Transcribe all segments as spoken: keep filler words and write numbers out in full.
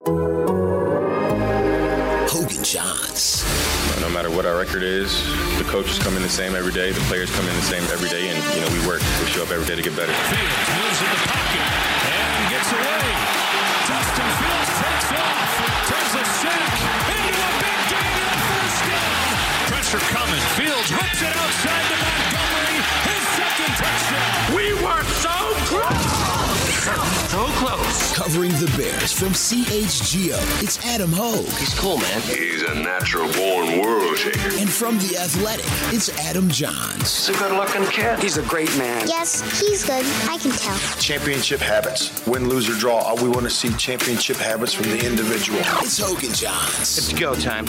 Hogan Johns. No matter what our record is, the coaches come in the same every day, the players come in the same every day, and you know we work, we show up every day to get better. Fields moves in the pocket and gets away. Justin Fields takes off, does a sack, into a big game and a first down. Pressure coming. Fields whips it outside to Montgomery. His second touchdown. We were so close. So close. Covering the Bears from C H G O, it's Adam Hogue. He's cool, man. He's a natural-born world shaker. And from The Athletic, it's Adam Johns. He's a good-looking kid. He's a great man. Yes, he's good. I can tell. Championship habits. Win, lose, or draw. We want to see championship habits from the individual. It's Hogan Johns. It's go time.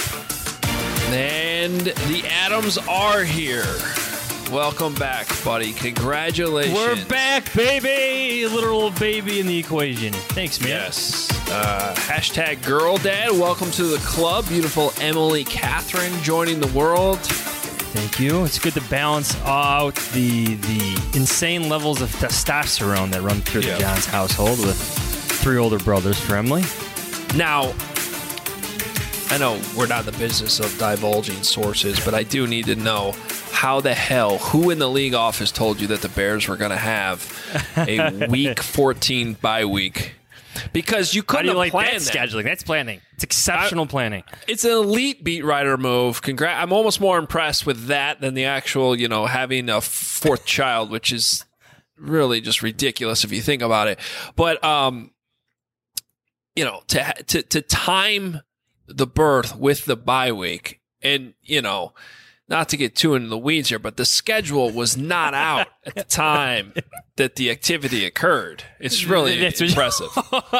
And the Adams are here. Welcome back, buddy. Congratulations. We're back, baby. Literal baby in the equation. Thanks, man. Yes. Uh, hashtag girl dad. Welcome to the club. Beautiful Emily Catherine joining the world. Thank you. It's good to balance out the the insane levels of testosterone that run through Yeah. the Johns household with three older brothers for Emily. Now, I know we're not in the business of divulging sources, but I do need to know how the hell, who in the league office told you that the Bears were going to have a week fourteen bye week? Because you How couldn't do you have like that planned that. scheduling? That's planning. It's exceptional I- planning. It's an elite beat writer move. Congra- I'm almost more impressed with that than the actual, you know, having a fourth child, which is really just ridiculous if you think about it. But, um, you know, to to to time the birth with the bye week, and you know, not to get too into the weeds here, but the schedule was not out at the time that the activity occurred. It's really That's what- impressive.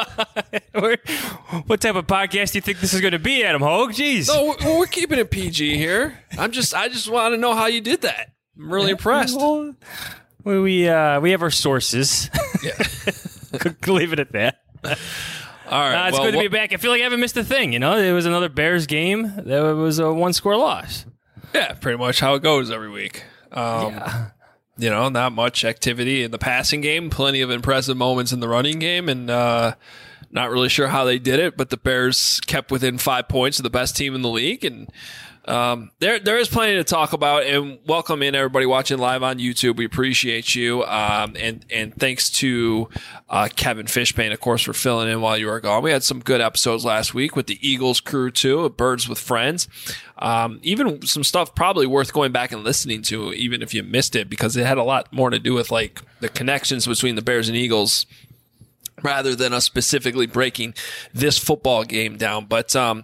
What type of podcast do you think this is going to be, Adam Hogue? Jeez. No, we're, we're keeping it P G here. I'm just, I just want to know how you did that. I'm really impressed. Well, we we, uh, we have our sources. Yeah. Could leave it at that. All right. Uh, it's well, good to be wh- back. I feel like I haven't missed a thing. You know, it was another Bears game. That was a one-score loss. Yeah, pretty much how it goes every week. Um, Yeah. You know, not much activity in the passing game, plenty of impressive moments in the running game, and uh, not really sure how they did it, but the Bears kept within five points of the best team in the league, and um, there there is plenty to talk about. And welcome in everybody watching live on YouTube. We appreciate you, um, and and thanks to uh, Kevin Fishbane, of course, for filling in while you were gone. We had some good episodes last week with the Eagles crew too, Birds with Friends. Um, even some stuff probably worth going back and listening to, even if you missed it, because it had a lot more to do with like the connections between the Bears and Eagles rather than us specifically breaking this football game down. But, um,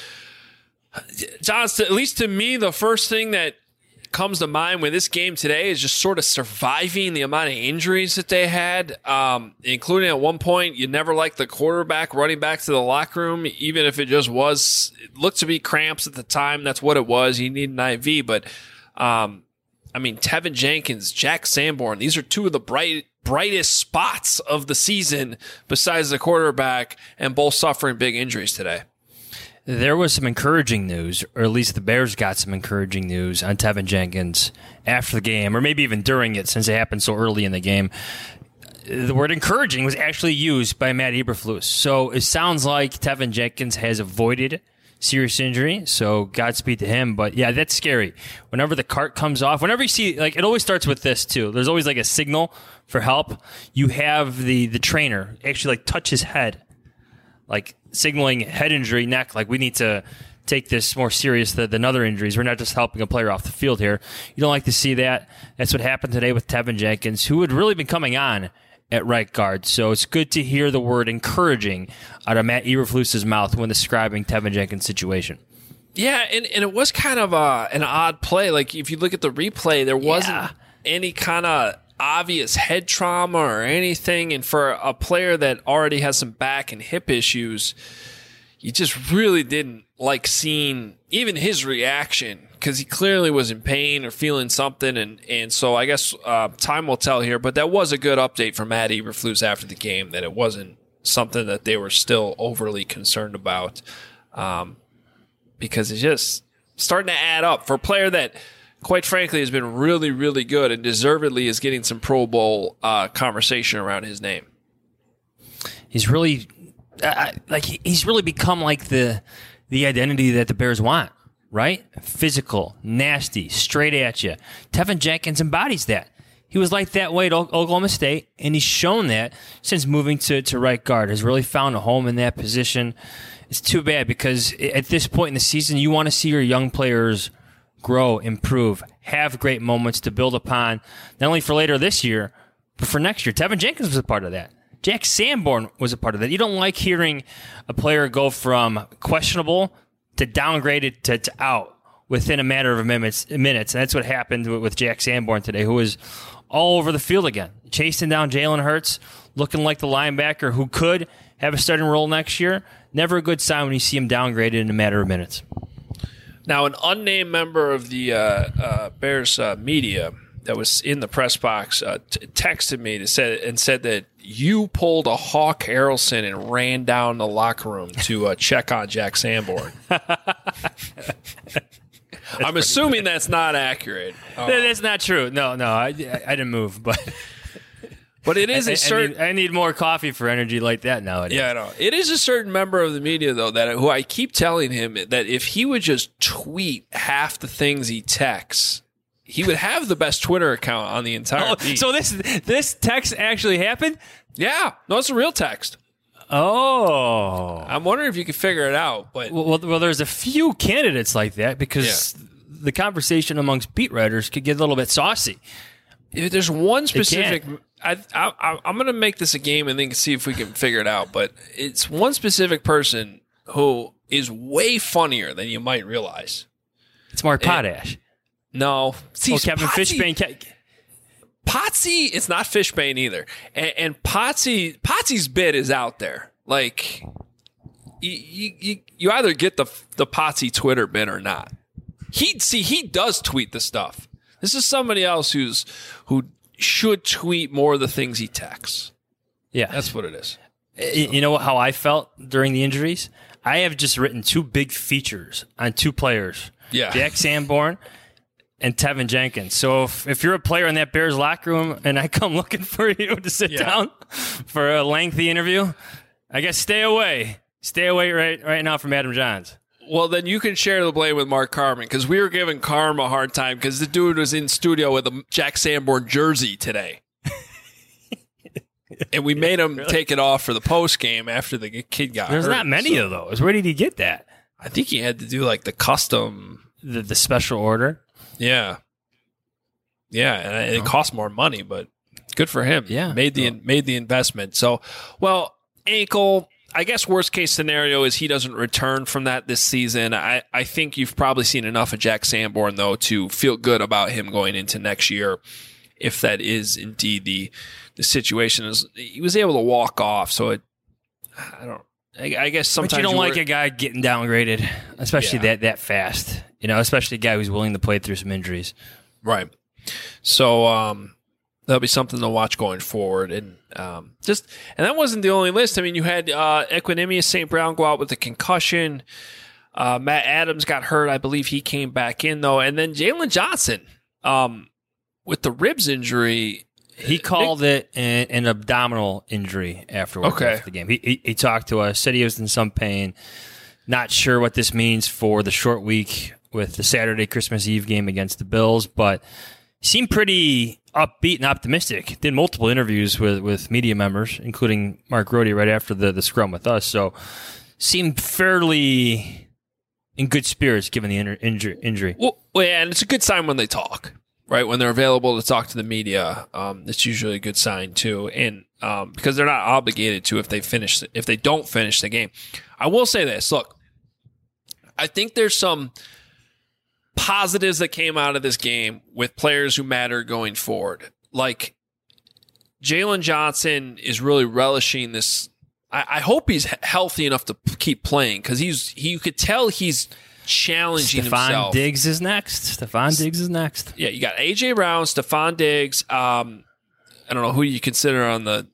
John, at least to me, the first thing that comes to mind with this game today is just sort of surviving the amount of injuries that they had, um, including at one point, you never liked the quarterback running back to the locker room, even if it just was, it looked to be cramps at the time. That's what it was. He needed an I V. But, um, I mean, Tevin Jenkins, Jack Sanborn, these are two of the bright, brightest spots of the season besides the quarterback, and both suffering big injuries today. There was some encouraging news, or at least the Bears got some encouraging news on Tevin Jenkins after the game, or maybe even during it, since it happened so early in the game. The word encouraging was actually used by Matt Eberflus. So it sounds like Tevin Jenkins has avoided serious injury, so Godspeed to him. But yeah, that's scary. Whenever the cart comes off, whenever you see, like, it always starts with this too. There's always like a signal for help. You have the the trainer actually like touch his head, like signaling head injury, neck, like we need to take this more serious than, than other injuries. We're not just helping a player off the field here. You don't like to see that. That's what happened today with Tevin Jenkins, who had really been coming on at right guard. So it's good to hear the word encouraging out of Matt Eberflus's mouth when describing Tevin Jenkins' situation. Yeah, and, and it was kind of a, an odd play. Like, if you look at the replay, there wasn't Yeah. any kind of obvious head trauma or anything. And for a player that already has some back and hip issues, you just really didn't like seeing even his reaction, because he clearly was in pain or feeling something. And, and so I guess uh, time will tell here. But that was a good update from Matt Eberflus after the game, that it wasn't something that they were still overly concerned about. Um, because it's just starting to add up for a player that, quite frankly, has been really, really good and deservedly is getting some Pro Bowl uh, conversation around his name. He's really uh, like he's really become like the the identity that the Bears want, right? Physical, nasty, straight at you. Tevin Jenkins embodies that. He was like that way at Oklahoma State, and he's shown that since moving to, to right guard. Has really found a home in that position. It's too bad because at this point in the season, you want to see your young players grow, improve, have great moments to build upon, not only for later this year, but for next year. Tevin Jenkins was a part of that. Jack Sanborn was a part of that. You don't like hearing a player go from questionable to downgraded to, to out within a matter of minutes. minutes. And that's what happened with Jack Sanborn today, who was all over the field again, chasing down Jalen Hurts, looking like the linebacker who could have a starting role next year. Never a good sign when you see him downgraded in a matter of minutes. Now, an unnamed member of the uh, uh, Bears uh, media that was in the press box uh, t- texted me to say, and said that you pulled a Hawk Harrelson and ran down the locker room to uh, check on Jack Sanborn. I'm assuming that's not accurate. Um, that's not true. No, no, I, I didn't move, but but it is I, a certain. I need, I need more coffee for energy like that nowadays. Yeah, I know. It is a certain member of the media though that who I keep telling him that if he would just tweet half the things he texts, he would have the best Twitter account on the entire. Oh, beat. So this this text actually happened? Yeah, no, it's a real text. Oh, I'm wondering if you could figure it out. But well, well, well there's a few candidates like that because yeah. the conversation amongst beat writers could get a little bit saucy. If there's one specific. I, I, I'm going to make this a game and then see if we can figure it out. But it's one specific person who is way funnier than you might realize. It's Mark Potash. No, see, oh, Kevin Potsy, Fishbane. Potsy, it's not Fishbane either. And, and Potsy, Potsy's bit is out there. Like, you, you, you either get the the Potsy Twitter bit or not. He see he does tweet the stuff. This is somebody else who's who should tweet more of the things he texts. Yeah, that's what it is. You know how I felt during the injuries? I have just written two big features on two players. Yeah, Jack Sanborn and Tevin Jenkins. So if, if you're a player in that Bears locker room and I come looking for you to sit yeah. down for a lengthy interview, I guess stay away. Stay away right right now from Adam Johns. Well, then you can share the blame with Mark Carman because we were giving Carm a hard time because the dude was in studio with a Jack Sanborn jersey today. And we made him really? take it off for the post game after the kid got There's hurt. There's not many so. of those. Where did he get that? I think he had to do like the custom. The, the special order? Yeah. Yeah, and it oh. cost more money, but good for him. Yeah. Made the, oh. made the investment. So, well, ankle, I guess worst case scenario is he doesn't return from that this season. I, I think you've probably seen enough of Jack Sanborn, though, to feel good about him going into next year if that is indeed the the situation. Is he was able to walk off, so it, I don't I, I guess sometimes but you don't you like work, a guy getting downgraded, especially yeah. that that fast. You know, especially a guy who's willing to play through some injuries. Right. So um, that'll be something to watch going forward. And um, just and that wasn't the only list. I mean, you had uh, Equanimeous Saint Brown go out with a concussion. Uh, Matt Adams got hurt. I believe he came back in, though. And then Jalen Johnson um, with the ribs injury. He called Nick, it an, an abdominal injury afterwards okay. after the game. He, he he talked to us, said he was in some pain. Not sure what this means for the short week with the Saturday Christmas Eve game against the Bills, but he seemed pretty upbeat and optimistic. Did multiple interviews with, with media members, including Mark Grody right after the, the scrum with us. So seemed fairly in good spirits given the inter, injury. injury. Well, and it's a good sign when they talk. Right, when they're available to talk to the media, um, it's usually a good sign too, and um, because they're not obligated to if they finish if they don't finish the game. I will say this: look, I think there's some positives that came out of this game with players who matter going forward. Like Jalen Johnson is really relishing this. I, I hope he's healthy enough to keep playing because he's he, you could tell he's challenging Stephon himself. Diggs is next. Stephon Diggs is next. Yeah, you got A J Brown, Stephon Diggs. Um, I don't know who you consider on the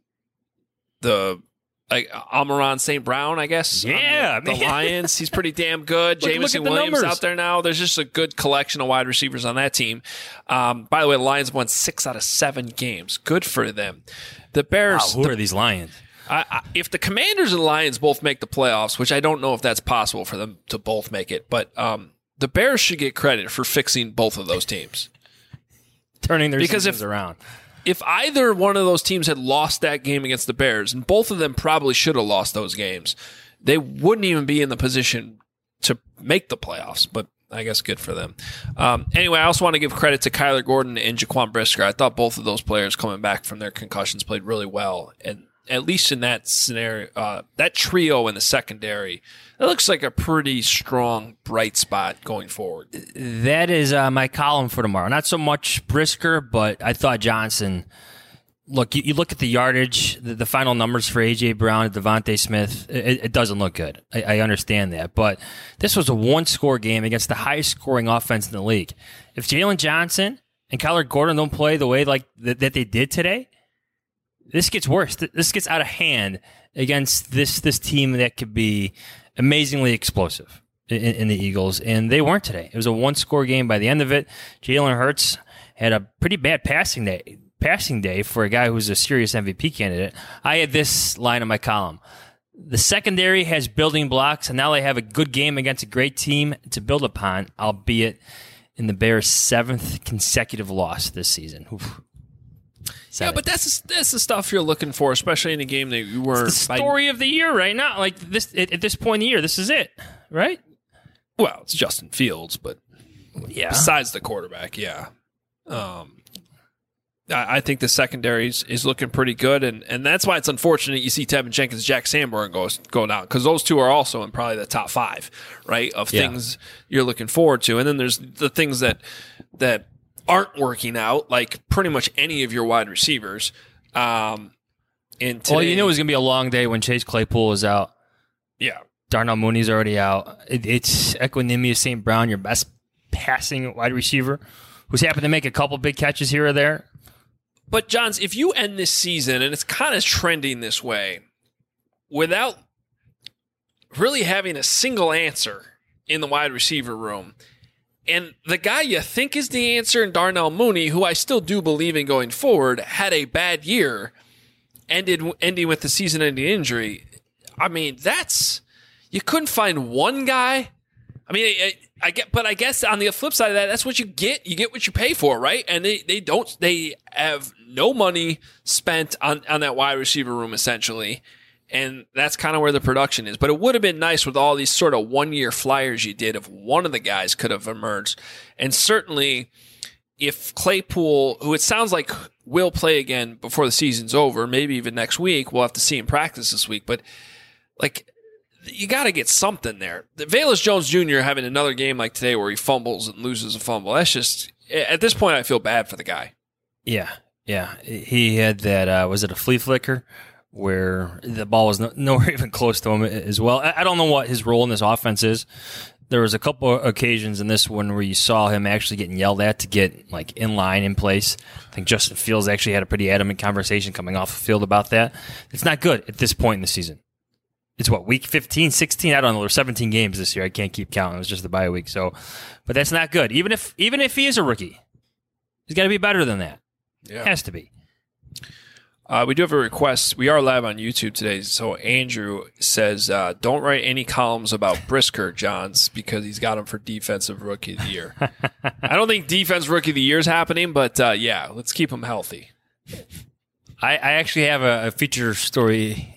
the like Amon-Ra Saint Brown, I guess. Yeah, the, the Lions. He's pretty damn good. look, Jameson look Williams numbers. out there now. There's just a good collection of wide receivers on that team. Um, by the way, the Lions won six out of seven games. Good for them. The Bears. Wow, who the, are these Lions? I, I, if the Commanders and Lions both make the playoffs, which I don't know if that's possible for them to both make it, but um, the Bears should get credit for fixing both of those teams. Turning their because seasons if, around. If either one of those teams had lost that game against the Bears, and both of them probably should have lost those games, they wouldn't even be in the position to make the playoffs, but I guess good for them. Um, anyway, I also want to give credit to Kyler Gordon and Jaquan Brisker. I thought both of those players coming back from their concussions played really well, and at least in that scenario, uh, that trio in the secondary, it looks like a pretty strong, bright spot going forward. That is uh, my column for tomorrow. Not so much Brisker, but I thought Johnson. Look, you, you look at the yardage, the, the final numbers for A J. Brown and Devontae Smith, it, it doesn't look good. I, I understand that. But this was a one-score game against the highest-scoring offense in the league. If Jalen Johnson and Kyler Gordon don't play the way like th- that they did today, this gets worse. This gets out of hand against this this team that could be amazingly explosive in, in the Eagles, and they weren't today. It was a one-score game by the end of it. Jalen Hurts had a pretty bad passing day. Passing day for a guy who's a serious M V P candidate. I had this line in my column. The secondary has building blocks, and now they have a good game against a great team to build upon, albeit in the Bears' seventh consecutive loss this season. Oof. Yeah, but that's that's the stuff you're looking for, especially in a game that you were. It's the story by, of the year right now. Like this at, at this point in the year, this is it, right? Well, it's Justin Fields, but yeah. Besides the quarterback, yeah. Um, I think the secondary is, is looking pretty good, and, and that's why it's unfortunate you see Tevin Jenkins, Jack Sanborn go, go down, because those two are also in probably the top five, right, of yeah. things you're looking forward to. And then there's the things that that aren't working out, like pretty much any of your wide receivers. Um, and today, well, you knew it was going to be a long day when Chase Claypool was out. Yeah. Darnell Mooney's already out. It, it's Equanimeous Saint Brown, your best passing wide receiver, who's happened to make a couple big catches here or there. But, Johns, if you end this season, and it's kind of trending this way, without really having a single answer in the wide receiver room, and the guy you think is the answer in Darnell Mooney, who I still do believe in going forward, had a bad year, ended ending with the season-ending injury, I mean, that's... You couldn't find one guy... I mean, I, I get, but I guess on the flip side of that, that's what you get. You get what you pay for, right? And they, they don't, they have no money spent on, on that wide receiver room, essentially. And that's kind of where the production is. But it would have been nice with all these sort of one-year flyers you did if one of the guys could have emerged. And certainly, if Claypool, who it sounds like will play again before the season's over, maybe even next week, we'll have to see him practice this week. But, like... You got to get something there. The Velus Jones Junior having another game like today where he fumbles and loses a fumble. That's just, at this point, I feel bad for the guy. Yeah, yeah. He had that, uh, was it a flea flicker where the ball was no, nowhere even close to him as well. I, I don't know what his role in this offense is. There was a couple of occasions in this one where you saw him actually getting yelled at to get like in line, in place. I think Justin Fields actually had a pretty adamant conversation coming off the field about that. It's not good at this point in the season. It's what, week fifteen, sixteen? I don't know. There's seventeen games this year. I can't keep counting. It was just the bye week. So, but that's not good. Even if even if he is a rookie, he's got to be better than that. Yeah. Has to be. Uh, we do have a request. We are live on YouTube today. So Andrew says, uh, don't write any columns about Brisker, Johns, because he's got him for Defensive Rookie of the Year. I don't think Defensive Rookie of the Year is happening, but uh, yeah, let's keep him healthy. I, I actually have a, a feature story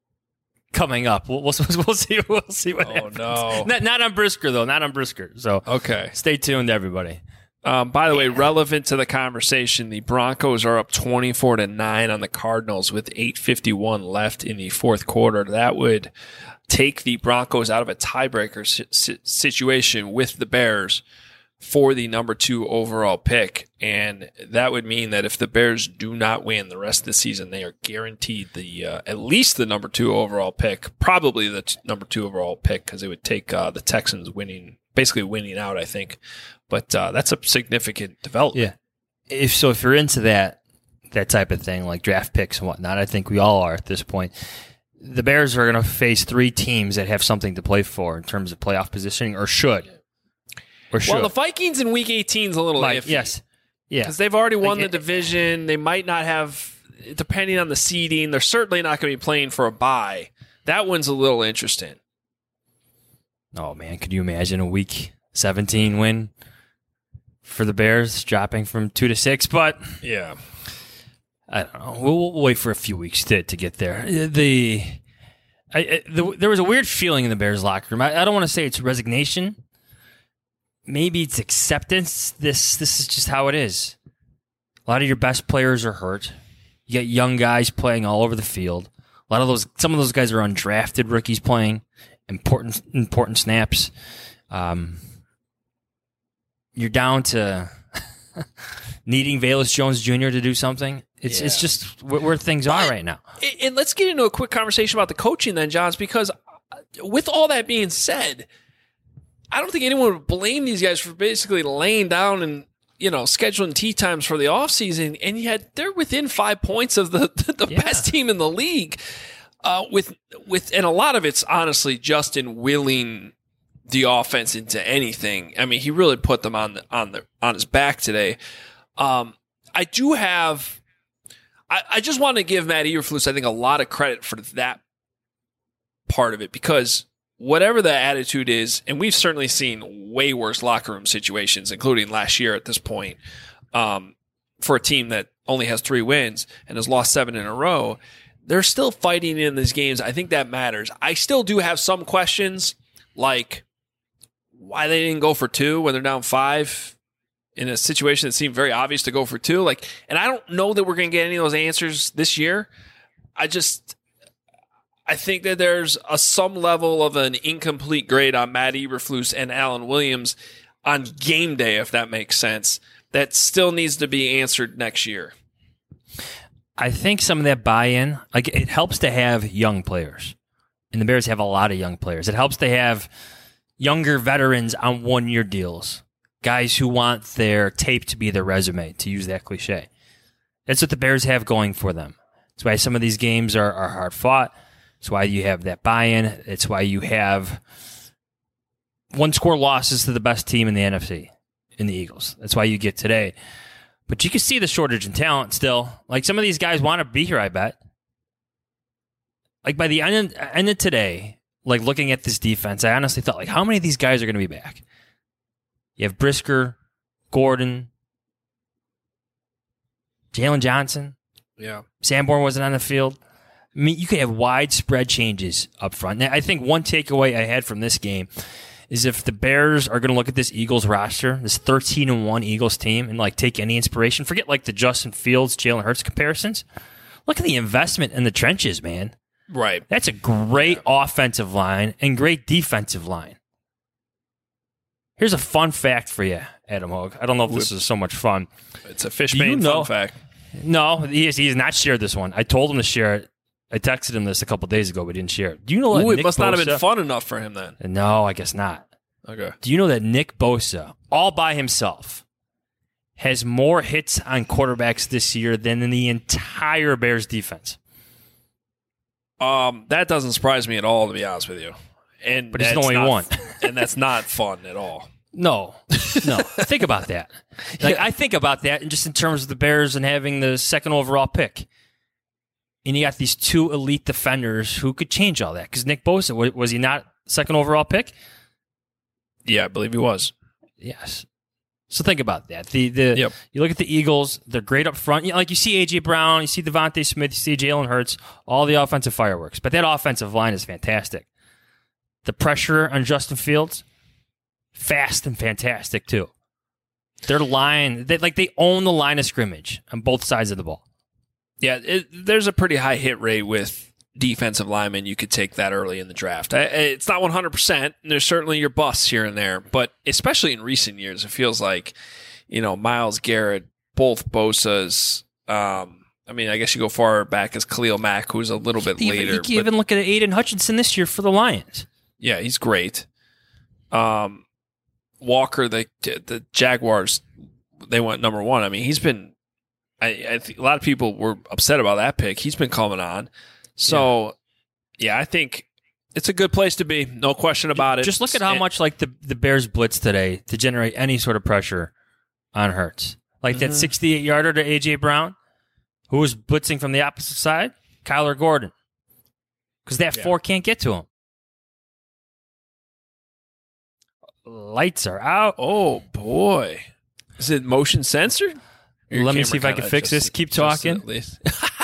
coming up. We'll, we'll, we'll see. We'll see what oh, happens. No. Not, not on Brisker though. Not on Brisker. So okay. Stay tuned, everybody. Um, by the way, relevant to the conversation, the Broncos are up twenty-four to nine on the Cardinals with eight fifty-one left in the fourth quarter. That would take the Broncos out of a tiebreaker si- situation with the Bears for the number two overall pick. And that would mean that if the Bears do not win the rest of the season, they are guaranteed the uh, at least the number two overall pick, probably the t- number two overall pick, because it would take uh, the Texans winning, basically winning out, I think. But uh, that's a significant development. Yeah. If so, if you're into that that type of thing, like draft picks and whatnot, I think we all are at this point. The Bears are going to face three teams that have something to play for in terms of playoff positioning, or should. Or should. Well, the Vikings in Week eighteen is a little like, iffy. Yes. Yeah. Because they've already won like, the division. They might not have depending on the seeding, they're certainly not going to be playing for a bye. That one's a little interesting. Oh, man, could you imagine a week seventeen win for the Bears, dropping from two to six? But yeah, I don't know. We'll, we'll wait for a few weeks to, to get there. The, I, I, the there was a weird feeling in the Bears locker room. I, I don't want to say it's resignation. Maybe it's acceptance. This this is just how it is. A lot of your best players are hurt. You got young guys playing all over the field. A lot of those, some of those guys are undrafted rookies playing important important snaps. Um, you're down to needing Velus Jones Junior to do something. It's yeah. it's just where, where things are right now. And let's get into a quick conversation about the coaching then, Johns, because with all that being said, I don't think anyone would blame these guys for basically laying down and, you know, scheduling tee times for the offseason, and yet they're within five points of the, the yeah. best team in the league. Uh, with with and a lot of it's honestly Justin willing the offense into anything. I mean, he really put them on the on the on his back today. Um, I do have. I, I just want to give Matt Eberflus, I think, a lot of credit for that part of it, because whatever the attitude is, and we've certainly seen way worse locker room situations, including last year at this point, um, for a team that only has three wins and has lost seven in a row. They're still fighting in these games. I think that matters. I still do have some questions, like why they didn't go for two when they're down five in a situation that seemed very obvious to go for two. Like, and I don't know that we're going to get any of those answers this year. I just, I think that there's a some level of an incomplete grade on Matt Eberflus and Alan Williams on game day, if that makes sense, that still needs to be answered next year. I think some of that buy-in, like it helps to have young players. And the Bears have a lot of young players. It helps to have younger veterans on one-year deals, guys who want their tape to be their resume, to use that cliche. That's what the Bears have going for them. That's why some of these games are, are hard-fought. That's why you have that buy-in. It's why you have one-score losses to the best team in the N F C, in the Eagles. That's why you get today. But you can see the shortage in talent still. Like, some of these guys want to be here, I bet. Like, by the end of, end of today, like, looking at this defense, I honestly thought, like, how many of these guys are going to be back? You have Brisker, Gordon, Jalen Johnson. Yeah. Sanborn wasn't on the field. I mean, you could have widespread changes up front. Now, I think one takeaway I had from this game is if the Bears are going to look at this Eagles roster, this thirteen and one Eagles team, and like take any inspiration, forget like the Justin Fields, Jalen Hurts comparisons. Look at the investment in the trenches, man. Right. That's a great yeah. offensive line and great defensive line. Here's a fun fact for you, Adam Hogue. I don't know if this is so much fun. It's a Fishbane you know, fun fact. No, he has, he has not shared this one. I told him to share it. I texted him this a couple days ago, but he didn't share it. Do you know what? Ooh, it Nick must Bosa, not have been fun enough for him then. No, I guess not. Okay. Do you know that Nick Bosa, all by himself, has more hits on quarterbacks this year than in the entire Bears defense? Um, that doesn't surprise me at all, to be honest with you. And but he's the only one, and that's not fun at all. No, no. Think about that. Like yeah. I think about that, and just in terms of the Bears and having the second overall pick. And you got these two elite defenders who could change all that. Because Nick Bosa, was he not second overall pick? Yeah, I believe he was. Yes. So think about that. The the yep. You look at the Eagles; they're great up front. You know, like you see A J Brown, you see Devontae Smith, you see Jalen Hurts, all the offensive fireworks. But that offensive line is fantastic. The pressure on Justin Fields, fast and fantastic too. Their line, they, like they own the line of scrimmage on both sides of the ball. Yeah, it, there's a pretty high hit rate with defensive linemen. You could take that early in the draft. I, it's not one hundred percent. There's certainly your busts here and there, but especially in recent years, it feels like, you know, Myles Garrett, both Bosa's. Um, I mean, I guess you go far back as Khalil Mack, who's a little bit even, later. You can but, even look at Aiden Hutchinson this year for the Lions. Yeah, he's great. Um, Walker, the the Jaguars, they went number one. I mean, he's been. I, I think a lot of people were upset about that pick. He's been coming on. So, yeah. yeah, I think it's a good place to be. No question about it. Just look at how and, much like the, the Bears blitz today to generate any sort of pressure on Hurts. Like mm-hmm. that sixty-eight yarder to A J Brown. Who was blitzing from the opposite side? Kyler Gordon. Because that yeah. four can't get to him. Lights are out. Oh, boy. Is it motion censored? Let me see if I can fix this. Keep talking. At least.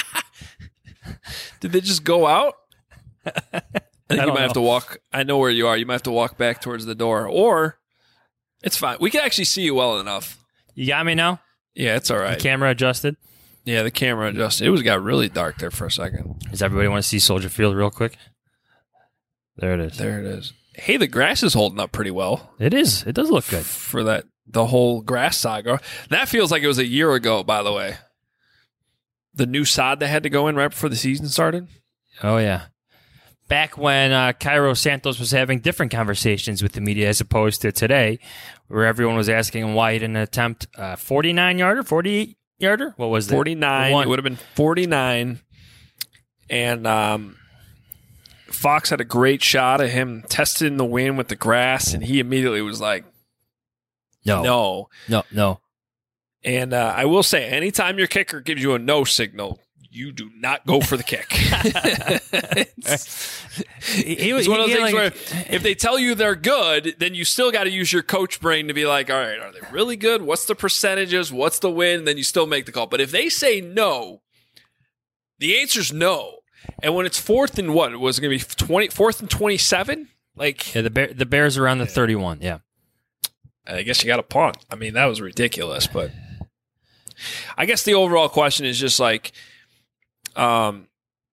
Did they just go out? I think I you might know. have to walk. I know where you are. You might have to walk back towards the door. Or, it's fine. We can actually see you well enough. You got me now? Yeah, it's all right. The camera adjusted? Yeah, the camera adjusted. It was got really dark there for a second. Does everybody want to see Soldier Field real quick? There it is. There it is. Hey, the grass is holding up pretty well. It is. It does look good. For that, the whole grass saga. That feels like it was a year ago, by the way. The new sod that had to go in right before the season started. Oh, yeah. Back when uh, Cairo Santos was having different conversations with the media as opposed to today, where everyone was asking him why he didn't attempt a forty-nine-yarder, forty-eight-yarder? What was that? forty-nine. It would have been forty-nine. And um, Fox had a great shot of him testing the wind with the grass, and he immediately was like, no. No. No, no. And uh, I will say, anytime your kicker gives you a no signal, you do not go for the kick. it's, it's one of those things like, where if they tell you they're good, then you still got to use your coach brain to be like, all right, are they really good? What's the percentages? What's the win? Then you still make the call. But if they say no, the answer's no. And when it's fourth and what? Was it going to be twenty, fourth and twenty-seven? Like, yeah, the Bear, the Bears are on the thirty-one, yeah. I guess you got a punt. I mean, that was ridiculous. But I guess the overall question is just like, Um,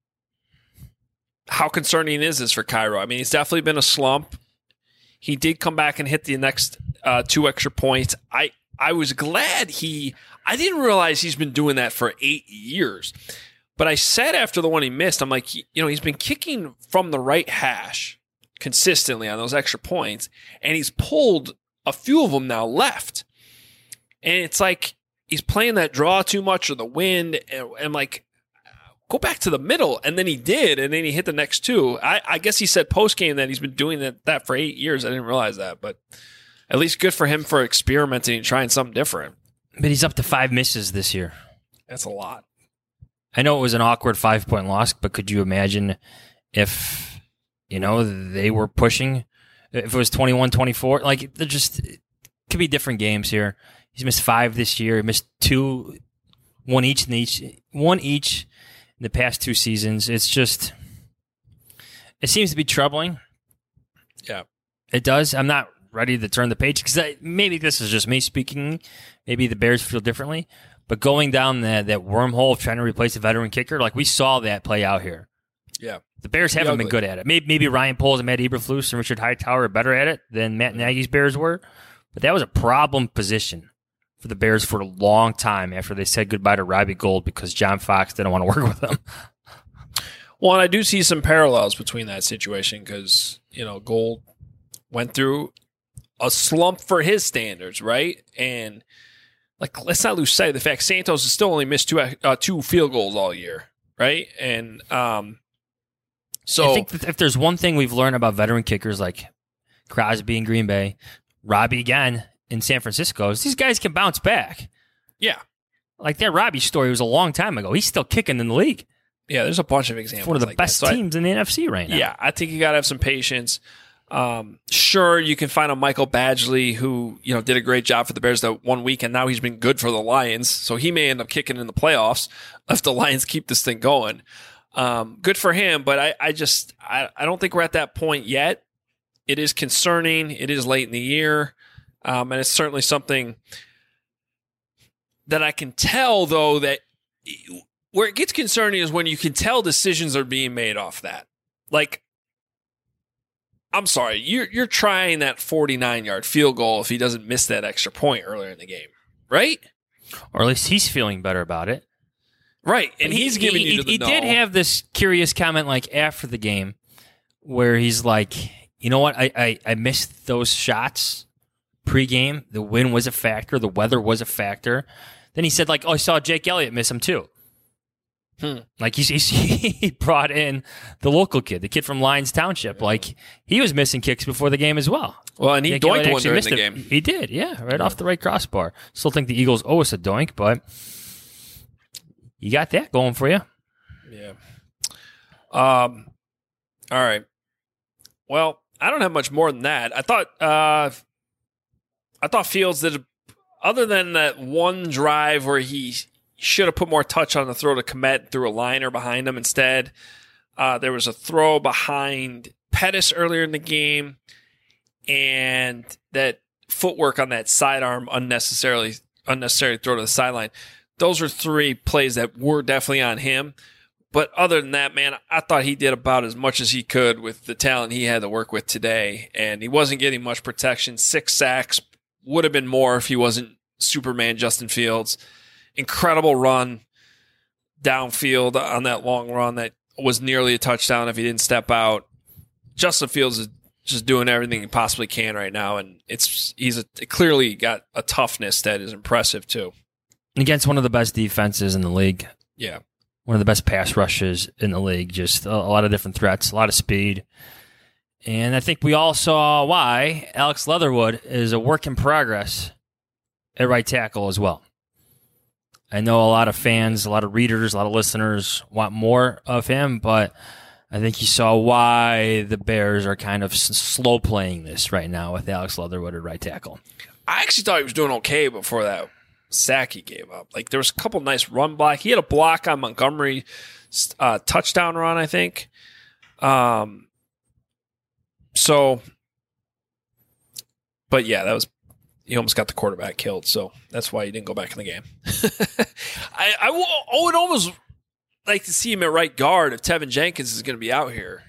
how concerning is this for Cairo? I mean, he's definitely been a slump. He did come back and hit the next uh, two extra points. I, I was glad he – I didn't realize he's been doing that for eight years. But I said after the one he missed, I'm like, you know, he's been kicking from the right hash consistently on those extra points, and he's pulled a few of them now left. And it's like he's playing that draw too much or the wind, and I'm like – go back to the middle, and then he did, and then he hit the next two. I, I guess he said post-game that he's been doing that, that for eight years. I didn't realize that, but at least good for him for experimenting and trying something different. But he's up to five misses this year. That's a lot. I know it was an awkward five-point loss, but could you imagine if, you know, they were pushing, if it was twenty-one twenty-four? Like, they're just, it could be different games here. He's missed five this year. He missed two, one each in each, one each. In the past two seasons, it's just, it seems to be troubling. Yeah. It does. I'm not ready to turn the page because maybe this is just me speaking. Maybe the Bears feel differently. But going down the, that wormhole of trying to replace a veteran kicker, like we saw that play out here. Yeah. The Bears haven't been good at it. Maybe, maybe Ryan Poles and Matt Eberflus and Richard Hightower are better at it than Matt Nagy's Bears were. But that was a problem position for the Bears for a long time after they said goodbye to Robbie Gould because John Fox didn't want to work with him. Well, and I do see some parallels between that situation because, you know, Gould went through a slump for his standards, right? And, like, let's not lose sight of the fact Santos has still only missed two uh, two field goals all year, right? And um, so I think that if there's one thing we've learned about veteran kickers like Crosby in Green Bay, Robbie again in San Francisco, is these guys can bounce back. Yeah. Like that Robbie story was a long time ago. He's still kicking in the league. Yeah, there's a bunch of examples. One of the like best that. So teams I, in the N F C right now. Yeah, I think you got to have some patience. Um, sure, you can find a Michael Badgley who, you know, did a great job for the Bears that one week, and now he's been good for the Lions. So he may end up kicking in the playoffs if the Lions keep this thing going. Um, good for him, but I, I just I, I don't think we're at that point yet. It is concerning. It is late in the year, um, and it's certainly something that I can tell, though, that where it gets concerning is when you can tell decisions are being made off that. Like, I'm sorry, you're you're trying that forty-nine-yard field goal if he doesn't miss that extra point earlier in the game, right? Or at least he's feeling better about it. Right, and he's he, giving he, you to the He no. did have this curious comment like after the game where he's like, you know what, I, I, I missed those shots pregame. The wind was a factor. The weather was a factor. Then he said, like, oh, I saw Jake Elliott miss them too. Hmm. Like he's, he's, he brought in the local kid, the kid from Lyons Township. Like he was missing kicks before the game as well. Well, and he Jake doinked one during missed the it. game. He did, yeah, right off the right crossbar. Still think the Eagles owe us a doink, but you got that going for you. Yeah. Um. All right. Well, I don't have much more than that. I thought. Uh, I thought Fields did. Other than that one drive where he should have put more touch on the throw to Kmet, threw a liner behind him instead. Uh, there was a throw behind Pettis earlier in the game, and that footwork on that sidearm unnecessarily unnecessary throw to the sideline. Those are three plays that were definitely on him. But other than that, man, I thought he did about as much as he could with the talent he had to work with today, and he wasn't getting much protection. Six sacks. Would have been more if he wasn't Superman Justin Fields. Incredible run downfield on that long run that was nearly a touchdown if he didn't step out. Justin Fields is just doing everything he possibly can right now, and it's he's a, clearly got a toughness that is impressive too. Against one of the best defenses in the league. Yeah. One of the best pass rushes in the league. Just a, a lot of different threats, a lot of speed. And I think we all saw why Alex Leatherwood is a work in progress at right tackle as well. I know a lot of fans, a lot of readers, a lot of listeners want more of him, but I think you saw why the Bears are kind of s- slow playing this right now with Alex Leatherwood at right tackle. I actually thought he was doing okay before that sack he gave up. Like there was a couple nice run block. He had a block on Montgomery uh, touchdown run, I think. Um. So, but yeah, that was, he almost got the quarterback killed, so that's why he didn't go back in the game. I, I, I would almost like to see him at right guard if Tevin Jenkins is going to be out here.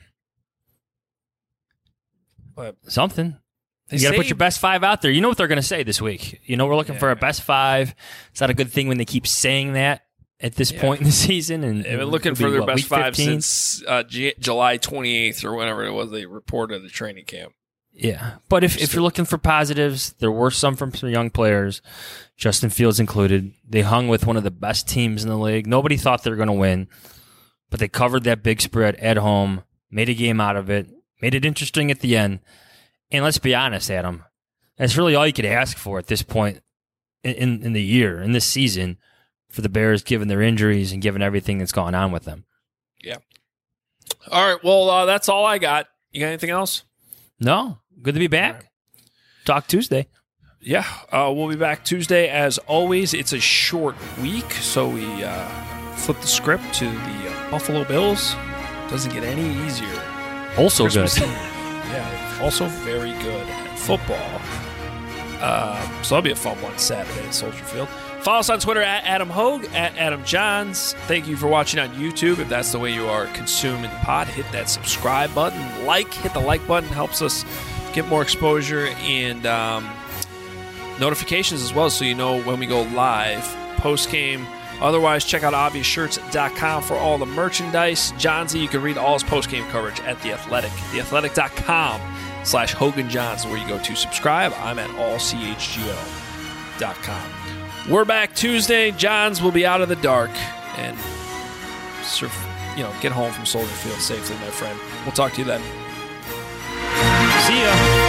But Something. You got to put your best five out there. You know what they're going to say this week. You know, we're looking yeah. for a best five. It's not a good thing when they keep saying that at this yeah. point in the season. And they've been looking for their what, best five since uh, G- July twenty-eighth or whenever it was they reported the training camp. Yeah. But if, if you're looking for positives, there were some from some young players, Justin Fields included. They hung with one of the best teams in the league. Nobody thought they were going to win, but they covered that big spread at home, made a game out of it, made it interesting at the end. And let's be honest, Adam, that's really all you could ask for at this point in, in, in the year, in this season, for the Bears, given their injuries and given everything that's gone on with them. Yeah. All right. Well, uh, that's all I got. You got anything else? No. Good to be back. Right. Talk Tuesday. Yeah. Uh, we'll be back Tuesday. As always, it's a short week, so we uh, flip the script to the uh, Buffalo Bills. Doesn't get any easier. Also Christmas good. Eve. Yeah. Also very good at football. Uh, so that'll be a fun one Saturday at Soldier Field. Follow us on Twitter at Adam Hogue, at Adam Johns. Thank you for watching on YouTube. If that's the way you are consuming the pod, hit that subscribe button. Like, hit the like button. Helps us get more exposure and um, notifications as well, so you know when we go live, post-game. Otherwise, check out obvious shirts dot com for all the merchandise. Johnsy, you can read all his post-game coverage at The Athletic. the athletic dot com slash Hogan Johns, where you go to subscribe. I'm at all c h g o dot com. We're back Tuesday. Johns will be out of the dark and surf, you know, get home from Soldier Field safely, my friend. We'll talk to you then. See ya.